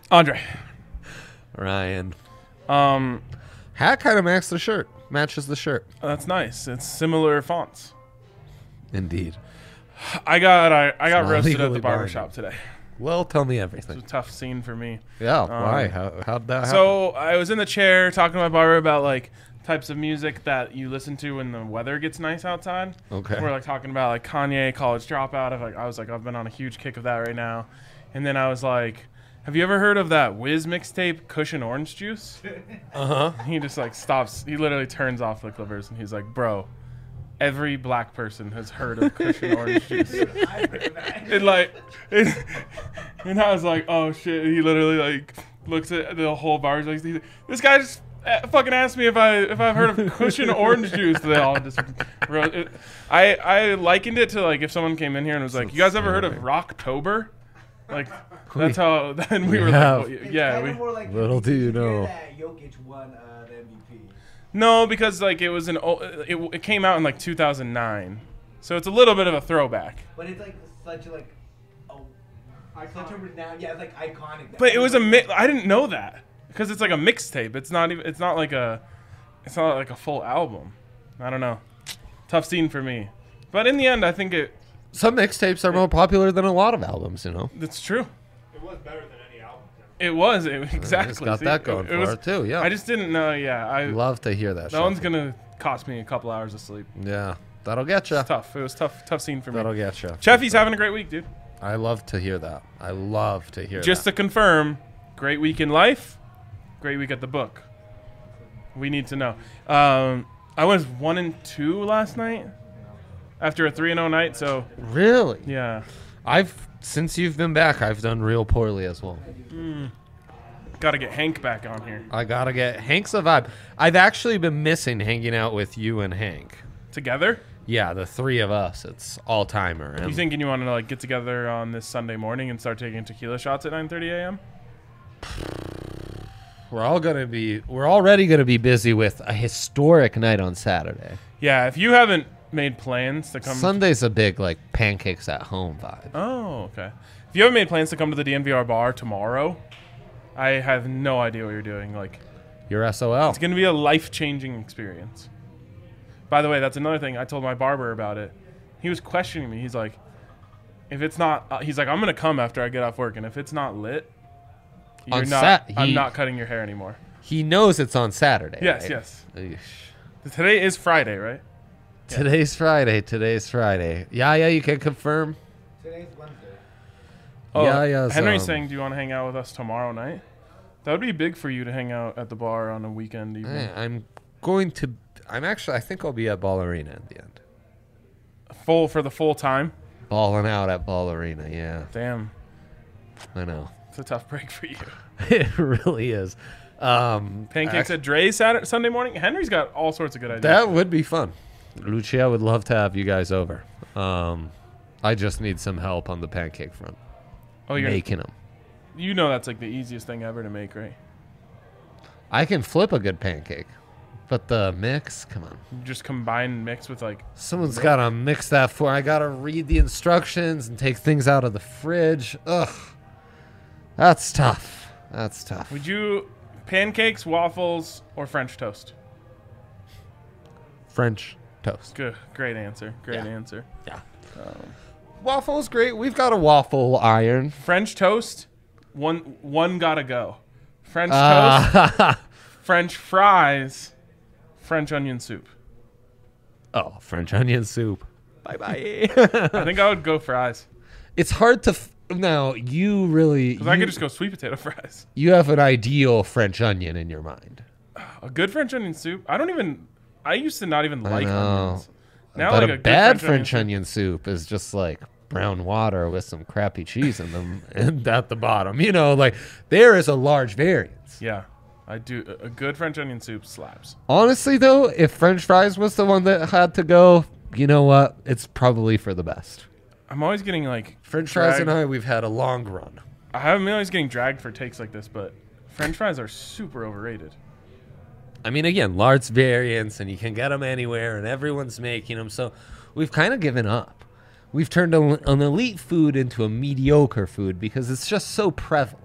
Andre. Ryan. Hat kind of matches the shirt. That's nice. It's similar fonts. Indeed. I got roasted at the legally barbershop today. Well, tell me It everything. was a tough scene for me. Yeah, why? How'd that happen? So I was in the chair talking to my barber about like types of music that you listen to when the weather gets nice outside. Okay. We're like talking about like Kanye, College Dropout. I was like, I've been on a huge kick of that right now. And then I was like, have you ever heard of that Wiz mixtape, Cushion Orange Juice? He just like stops. He literally turns off the clippers and he's like, bro, every black person has heard of Cushion Orange Juice. And I was like, oh shit. He literally like looks at the whole bar. He's like, this guy just fucking asked me if I've heard of Cushion Orange Juice. They all just wrote it. I likened it to like if someone came in here and was like, you guys ever heard of Rocktober? Like that's how. Then we were like, well, yeah. Like little do you know. That Jokic won the MVP. No, because like it was it came out in like 2009, so it's a little bit of a throwback. But it's like such a such a renowned, yeah, it's like iconic. But it was I didn't know that because it's like a mixtape. It's not like a full album. I don't know. Tough scene for me, but in the end, I think some mixtapes are more popular than a lot of albums. You know. That's true. It was better than any album. It was exactly. It's got that going for it too. Yeah. I just didn't know. Yeah, I love to hear that. That one's gonna cost me a couple hours of sleep. Yeah, that'll get you. It's tough. It was tough scene for me. That'll get you. Cheffy's having a great week, dude. I love to hear that. Just to confirm, great week in life, great week at the book. We need to know. I was 1-2 last night after a 3-0 night. So really, yeah. Since you've been back, I've done real poorly as well. Got to get Hank back on here. I gotta get Hank's a vibe. I've actually been missing hanging out with you and Hank together. Yeah, the three of us. It's all timer. You thinking you want to like get together on this Sunday morning and start taking tequila shots at 9:30 a.m.? We're already gonna be busy with a historic night on Saturday. Yeah, if you haven't made plans to come, Sunday's a big like pancakes at home vibe. Oh, okay. If you haven't made plans to come to the DNVR bar tomorrow, I have no idea what you're doing. Like, you're SOL. It's gonna be a life-changing experience. By the way, that's another thing. I told my barber about it. He was questioning me. He's like, if it's not, he's like, I'm going to come after I get off work. And if it's not lit, I'm not cutting your hair anymore. He knows it's on Saturday. Yes, right? yes. Eesh. Today is Friday, right? Today's Friday. Yeah, you can confirm. Today's Wednesday. Oh, yeah. Henry's saying, do you want to hang out with us tomorrow night? That would be big for you to hang out at the bar on a weekend evening. I think I'll be at Ball Arena at the end. For the full time? Balling out at Ball Arena, yeah. Damn. I know. It's a tough break for you. It really is. Pancakes at Dre's Sunday morning? Henry's got all sorts of good ideas. That would be fun. Lucia would love to have you guys over. I just need some help on the pancake front. Oh, you're making them. You know that's like the easiest thing ever to make, right? I can flip a good pancake. But the mix, come on. You just combine mix with like... Someone's got to mix that for... I got to read the instructions and take things out of the fridge. Ugh. That's tough. Would you... Pancakes, waffles, or French toast? French toast. Good. Great answer. Yeah. Waffle's great. We've got a waffle iron. French toast, one gotta go. French toast, French fries... French onion soup. Oh, French onion soup. Bye-bye. I think I would go fries. It's hard to... now, you really... Because I could just go sweet potato fries. You have an ideal French onion in your mind. A good French onion soup? I used to not even like onions. Now, but like a bad French onion soup is just like brown water with some crappy cheese in them and at the bottom. You know, like there is a large variance. Yeah. I do. A good French onion soup slaps. Honestly, though, if French fries was the one that had to go, you know what? It's probably for the best. I'm always getting like... French fries and I, we've had a long run. I'm always getting dragged for takes like this, but French fries are super overrated. I mean, again, large variants, and you can get them anywhere, and everyone's making them. So we've kind of given up. We've turned an elite food into a mediocre food because it's just so prevalent.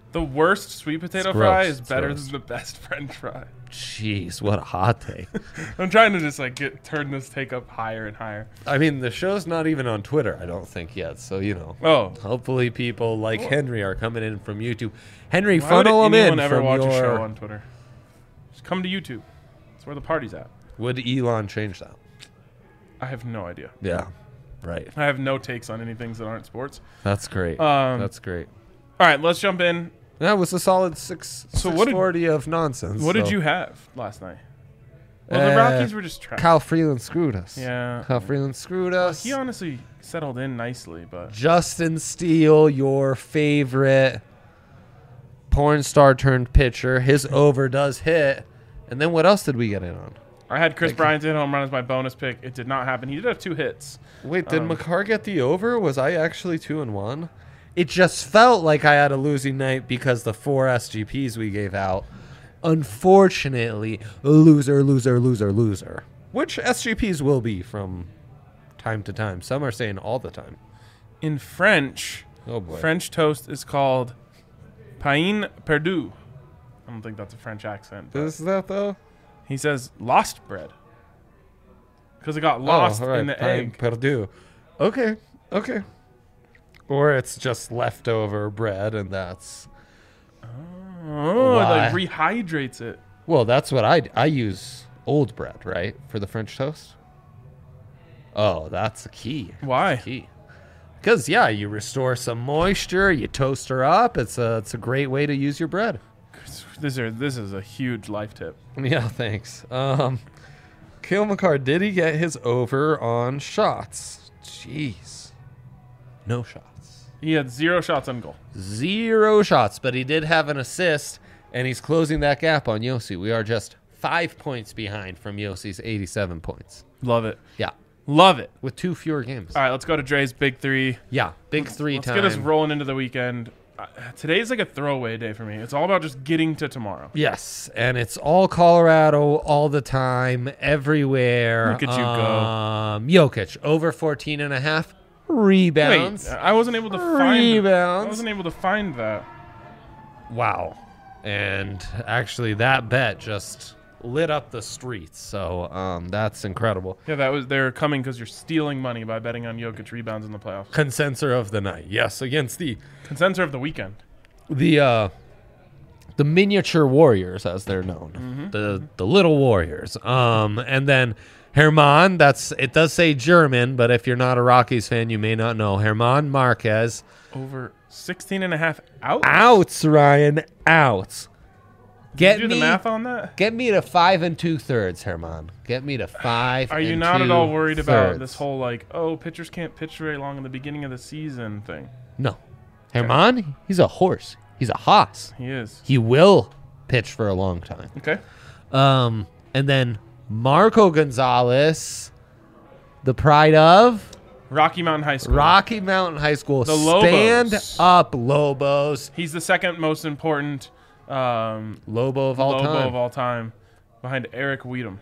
The worst sweet potato It's fry gross. is It's better gross. than the best French fry. Jeez, what a hot take. I'm trying to just like turn this take up higher and higher. I mean, the show's not even on Twitter, I don't think yet. So, Oh, hopefully people like Henry are coming in from YouTube. Henry, why would funnel them in anyone ever from watch your... a show on Twitter? Just come to YouTube. That's where the party's at. Would Elon change that? I have no idea. Yeah, right. I have no takes on any things that aren't sports. That's great. That's great. All right, let's jump in. That was a solid 640 of nonsense. What did so- you have last night? Well, the Rockies were just trash. Kyle Freeland screwed us. Yeah. Kyle Freeland screwed us. He honestly settled in nicely, but Justin Steele, your favorite porn star turned pitcher. His over does hit. And then what else did we get in on? I had Chris Bryant hit home run as my bonus pick. It did not happen. He did have 2 hits. Wait, did McCarr get the over? Was I actually 2-1? It just felt like I had a losing night because the 4 SGPs we gave out. Unfortunately, loser. Which SGPs will be from time to time. Some are saying all the time. In French, Oh boy. French toast is called pain perdu. I don't think that's a French accent. But Is that though? he says lost bread because it got lost all right, in the pain egg. perdu. Okay. Or it's just leftover bread, and that's Oh, it like Why? rehydrates it. well. That's what I use old bread, right, for the French toast. Oh, that's the key. Why? Key. Because you restore some moisture, you toast her up. It's a great way to use your bread. This is a huge life tip. Yeah, thanks. Kale McCarr, did he get his over on shots? Jeez, no shots. He had 0 shots on goal. 0 shots, but he did have an assist, and he's closing that gap on Yossi. We are just 5 points behind from Yossi's 87 points. Love it. Yeah, Love it. with 2 fewer games. All right, let's go to Dre's big 3. Yeah, big 3 Let's time. get us rolling into the weekend. Today's like a throwaway day for me. It's all about just getting to tomorrow. Yes, and it's all Colorado all the time, everywhere. Look at you go. Jokic, over 14.5 rebounds. Wait, I wasn't able to find. Rebounds. I wasn't able to find that. Wow. And actually, that bet just lit up the streets. So that's incredible. Yeah, they're coming because you're stealing money by betting on Jokic rebounds in the playoffs. Consensor of the night. Yes, against the Consensor of the weekend. the miniature warriors, as they're known, the little warriors. And then Herman. It does say German, but if you're not a Rockies fan, you may not know Herman Marquez. Over 16.5 out. Outs, Ryan. Outs. Did you do the math on that? Get me to 5 2/3, Herman. Get me to 5. Are you not at all worried about this whole like, oh, pitchers can't pitch very long in the beginning of the season thing? No. Herman, he's a horse. He's a hoss. He is. He will pitch for a long time. Okay. And then Marco Gonzalez, the pride of Rocky Mountain High School. Rocky Mountain High School. The Lobos. Stand up, Lobos. He's the second most important Lobo of all Lobo time. of all time, behind Eric Weedham.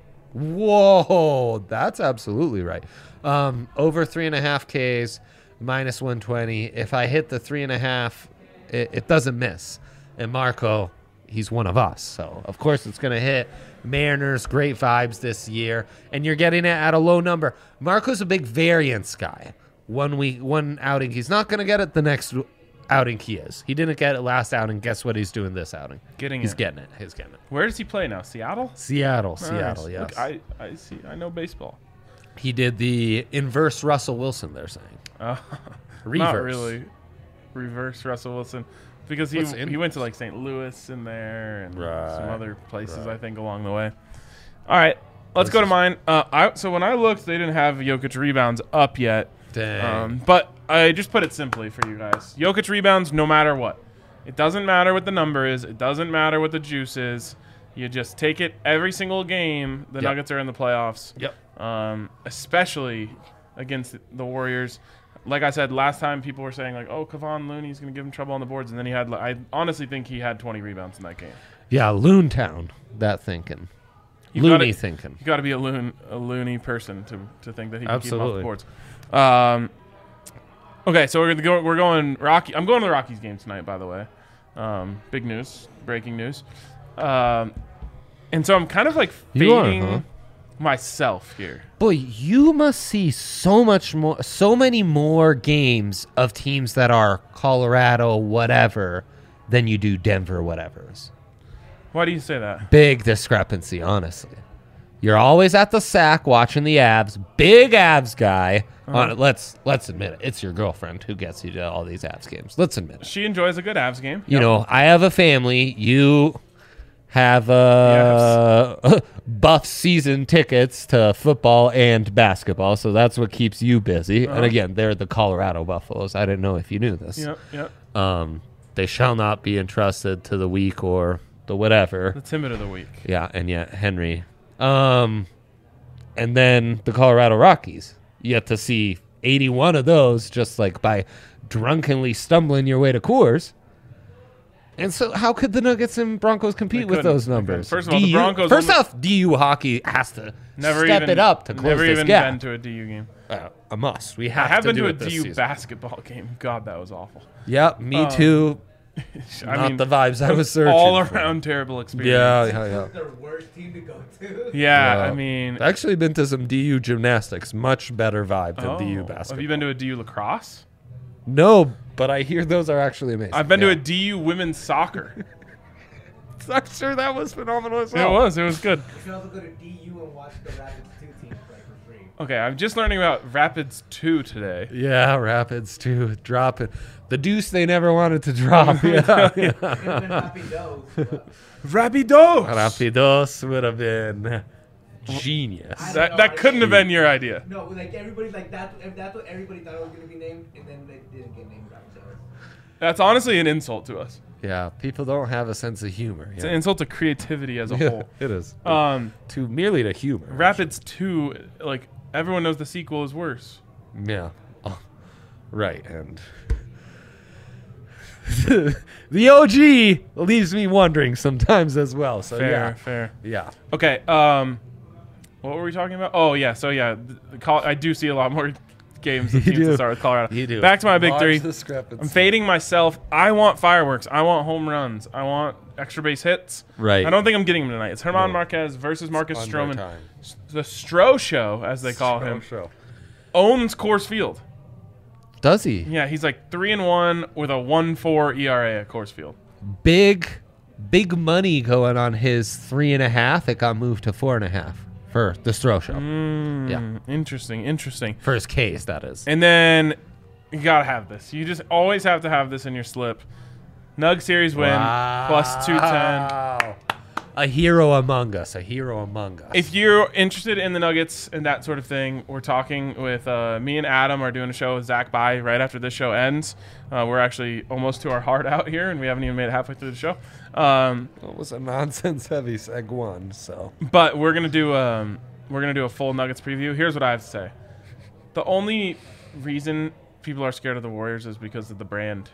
Whoa, that's absolutely right. Over 3.5 Ks, minus 120. If I hit the 3.5, it doesn't miss. And Marco, he's one of us, so of course it's going to hit. Mariners, great vibes this year, and you're getting it at a low number. Marco's a big variance guy. One outing, he's not going to get it the next outing he is. He didn't get it last outing. Guess what he's doing this outing? He's getting it. He's getting it. Where does he play now? Seattle? Seattle, Nice. yes. Look, I see. I know baseball. He did the inverse Russell Wilson, they're saying. Not Reverse. really. Reverse Russell Wilson. Because What's he went to like St. Louis in there and Right. some other places, I think, along the way. All right. Let's go to mine. So when I looked, they didn't have Jokic rebounds up yet. Dang. But I just put it simply for you guys. Jokic rebounds no matter what. It doesn't matter what the number is. It doesn't matter what the juice is. You just take it every single game the Yep. Nuggets are in the playoffs. Yep. Especially against the Warriors. Like I said, last time people were saying, like, oh, Kevon Looney's going to give him trouble on the boards. And then I honestly think he had 20 rebounds in that game. Yeah, Loontown, that thinking. Looney thinking. You got to be a loony person to think that he can keep him off Absolutely. the boards. Okay, so we're going Rocky. I'm going to the Rockies game tonight, by the way. Big news, breaking news. And so I'm kind of like You are, fading huh? myself here. Boy, you must see so many more games of teams that are Colorado whatever than you do Denver whatever's. Why do you say that? Big discrepancy, honestly. You're always at the sack watching the Avs. Big Avs guy. Let's admit it. It's your girlfriend who gets you to all these Avs games. Let's admit it. She enjoys a good Avs game. You know, I have a family. You have buff season tickets to football and basketball, so that's what keeps you busy. And again, they're the Colorado Buffaloes. I didn't know if you knew this. Yep. They shall not be entrusted to the weak or the whatever. The timid of the week. Yeah, and yet Henry. And then the Colorado Rockies. You get to see 81 of those just like by drunkenly stumbling your way to Coors. And so how could the Nuggets and Broncos compete with those numbers? First of all, the Broncos... First off, DU hockey has to step it up to close never this even gap. been to a DU game. A must. We I have have to been do to a it this DU season. basketball game. God, that was awful. Yep, me too. Not the vibes I was searching all for. around terrible experience. Yeah. The worst team to go to. Yeah, I mean... I've actually been to some DU gymnastics. Much better vibe than DU basketball. Have you been to a DU lacrosse? No, but I hear those are actually amazing. I've been to a DU women's soccer. I'm sure that was phenomenal as It well. was good. You should also go to DU and watch the Rapids 2 team play for free. Okay, I'm just learning about Rapids 2 today. Yeah, Rapids too. Dropping the deuce they never wanted to drop. Yeah. It would have been Happy Does. Rapidos! Rapidos would have been genius. I don't know, That couldn't have been your idea. No, like everybody's like that. That's what everybody thought it was gonna be named, and then they didn't get named Rapids. That's honestly an insult to us. Yeah, people don't have a sense of humor. It's an insult to creativity as a whole. It is. To Merely to humor. Rapids 2, like, everyone knows the sequel is worse. Yeah. Oh, right, and the OG leaves me wondering sometimes as well. So Fair. yeah. Okay, what were we talking about? Oh, yeah, so yeah, I do see a lot more games of You teams do. that start with Colorado. You do. Back to my big Large three. discrepancy. I'm fading myself. I want fireworks. I want home runs. I want extra base hits. Right. I don't think I'm getting them tonight. It's Herman Marquez versus Marcus Stroman. The Stro Show, as they call him, owns Coors Field. Does he? Yeah, he's like 3-1 with a 1.4 ERA at Coors Field. Big money going on his 3.5. It got moved to 4.5 for the Stro Show. Yeah. Interesting. For his case, that is. And then you gotta have this. You just always have to have this in your slip. Nug series win plus 210. A hero among us. If you're interested in the Nuggets and that sort of thing, we're talking with me and Adam are doing a show with Zach Bai right after this show ends. We're actually almost to our heart out here, and we haven't even made it halfway through the show. It was a nonsense-heavy seg one, so. But we're gonna do a full Nuggets preview. Here's what I have to say: the only reason people are scared of the Warriors is because of the brand.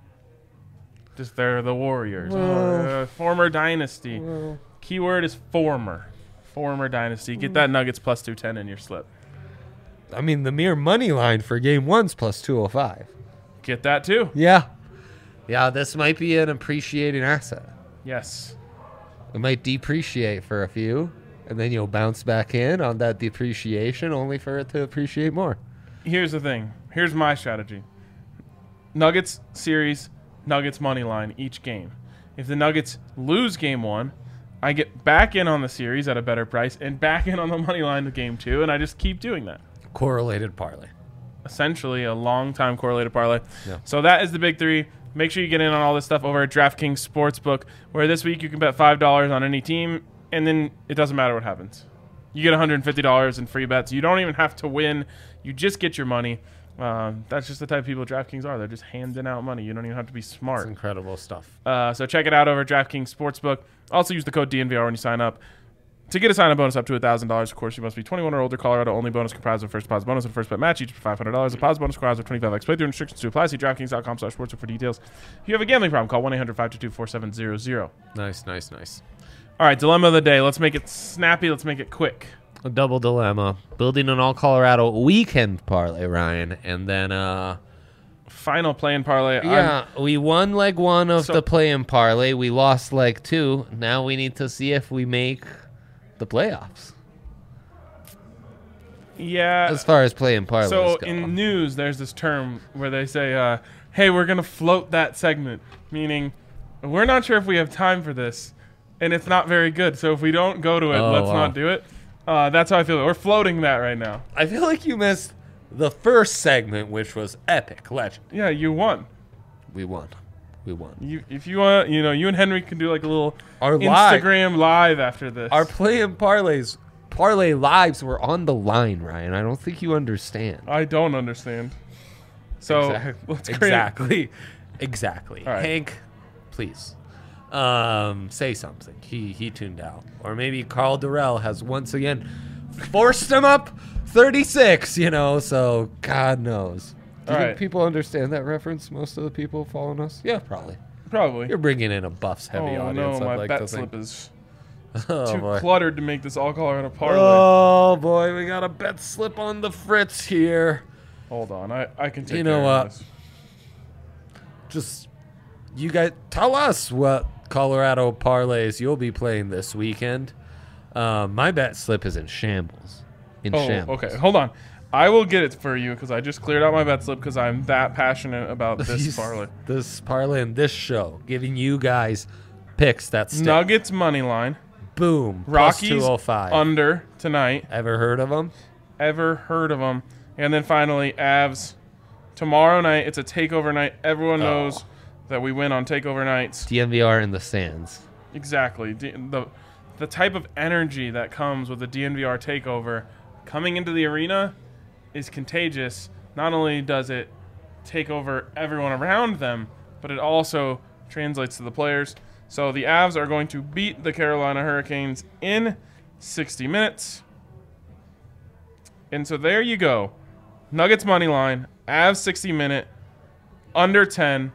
Just they're the Warriors, former dynasty. Keyword is former dynasty. Get that Nuggets plus 210 in your slip. I mean, the mere money line for game one's plus 205. Get that too. Yeah, this might be an appreciating asset. Yes. It might depreciate for a few, and then you'll bounce back in on that depreciation only for it to appreciate more. Here's the thing. Here's my strategy. Nuggets series, Nuggets money line each game. If the Nuggets lose game one, I get back in on the series at a better price and back in on the money line to game two, and I just keep doing that. Correlated parlay. Essentially a long-time correlated parlay. Yeah. So that is the big three. Make sure you get in on all this stuff over at DraftKings Sportsbook, where this week you can bet $5 on any team, and then it doesn't matter what happens. You get $150 in free bets. You don't even have to win. You just get your money. That's just the type of people DraftKings are. They're just handing out money. You don't even have to be smart. It's incredible stuff. So check it out over at DraftKings Sportsbook. Also use the code DNVR when you sign up. To get a sign-up bonus up to $1,000, of course, you must be 21 or older. Colorado only bonus comprised of first deposit bonus and first bet match, each for $500. The deposit bonus requires a 25x playthrough. Restrictions to apply. See DraftKings.com/sportsbook for details. If you have a gambling problem, call 1-800-522-4700. Nice. All right, dilemma of the day. Let's make it snappy. Let's make it quick. A double dilemma. Building an all Colorado weekend parlay, Ryan, and then final play-in parlay. Yeah, we won leg 1 of So- the play-in parlay. We lost leg 2. Now we need to see if we make the playoffs. Yeah. As far as play-in parlays So go. in news, there's this term where they say, "Hey, we're gonna float that segment," meaning we're not sure if we have time for this, and it's not very good. So if we don't go to it, Oh, let's wow. not do it. That's how I feel. We're floating that right now. I feel like you missed the first segment, which was epic, legend. Yeah, you won. We won. If you want, you and Henry can do like a little Our live- Instagram live after this. Our play-in parlay lives were on the line, Ryan. I don't think you understand. I don't understand. So let's create. Exactly. All right. Hank, please, say something. He tuned out, or maybe Carl Durrell has once again forced him up 36. So God knows. Do you All think right. people understand that reference? Most of the people following us, yeah, probably. Probably. You're bringing in a Buffs heavy Oh audience. no, I'd my like bet to think. slip is Oh too boy. cluttered to make this all Colorado parlay. Oh boy, we got a bet slip on the fritz here. Hold on, I can take You know care what? of this. Just you guys tell us what Colorado parlays you'll be playing this weekend. My bet slip is in shambles. Oh, okay. Hold on. I will get it for you because I just cleared out my bet slip because I'm that passionate about this parlay. This parlay and this show, giving you guys picks that stick. Nuggets money line. Boom. Plus Rockies 205. under tonight. Ever heard of them? Ever heard of them? And then finally, Avs tomorrow night. It's a takeover night. Everyone knows that we win on takeover nights. DNVR in the stands. Exactly. The type of energy that comes with the DNVR takeover coming into the arena is contagious. Not only does it take over everyone around them, but it also translates to the players. So the Avs are going to beat the Carolina Hurricanes in 60 minutes. And so there you go. Nuggets money line, Avs 60 minute, under 10,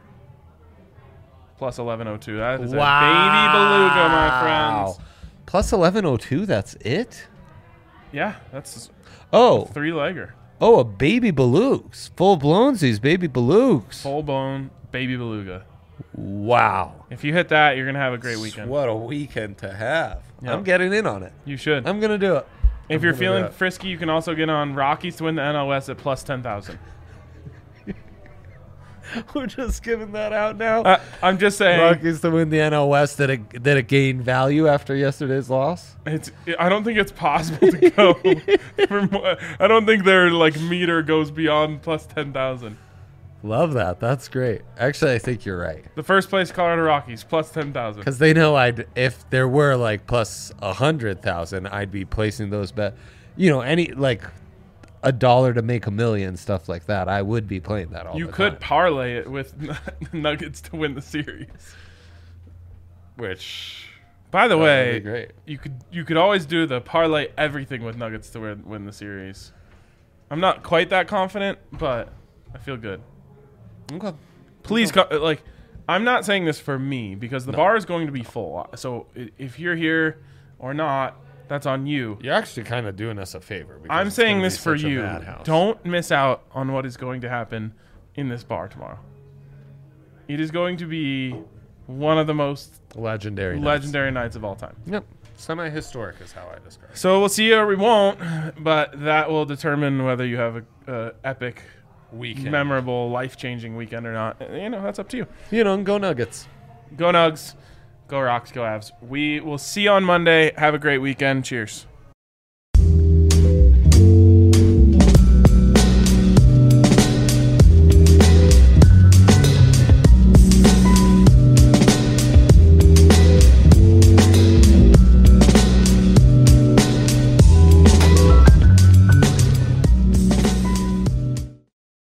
plus 1102. That is a baby beluga, my friends. Plus 1102, that's it? Yeah, that's Oh, 3-legger. a baby belugas. Full blownsies, baby belugas. Full bone baby beluga. Wow. If you hit that, you're going to have a great weekend. What a weekend to have. Yeah. I'm getting in on it. You should. I'm going to do it. If you're feeling frisky, you can also get on Rockies to win the NL West at plus 10,000. We're just giving that out now. I'm just saying. Rockies to win the NL West. Did it gain value after yesterday's loss? I don't think it's possible to go. I don't think their meter goes beyond plus 10,000. Love that. That's great. Actually, I think you're right. The first place Colorado Rockies plus 10,000. Because they know if there were plus 100,000, I'd be placing those bet. Any $1 to make $1 million, stuff like that. I would be playing that all You the could time. parlay it with Nuggets to win the series. Which, By the would way, be great. you could always do the parlay everything with Nuggets to win the series. I'm not quite that confident, but I feel good. Okay. Please, I'm not saying this for me because the bar is going to be full. So if you're here or not, that's on you. You're actually kind of doing us a favor. because I'm it's saying gonna this be for such a you. madhouse. Don't miss out on what is going to happen in this bar tomorrow. It is going to be one of the most Legendary legendary nights of all time. Yep. Semi-historic is how I describe it. So we'll see or we won't, but that will determine whether you have a epic, Weekend. memorable, life-changing weekend or not. That's up to you. Go Nuggets. Go Nugs, go Rocks, go Avs. We will see you on Monday. Have a great weekend. Cheers.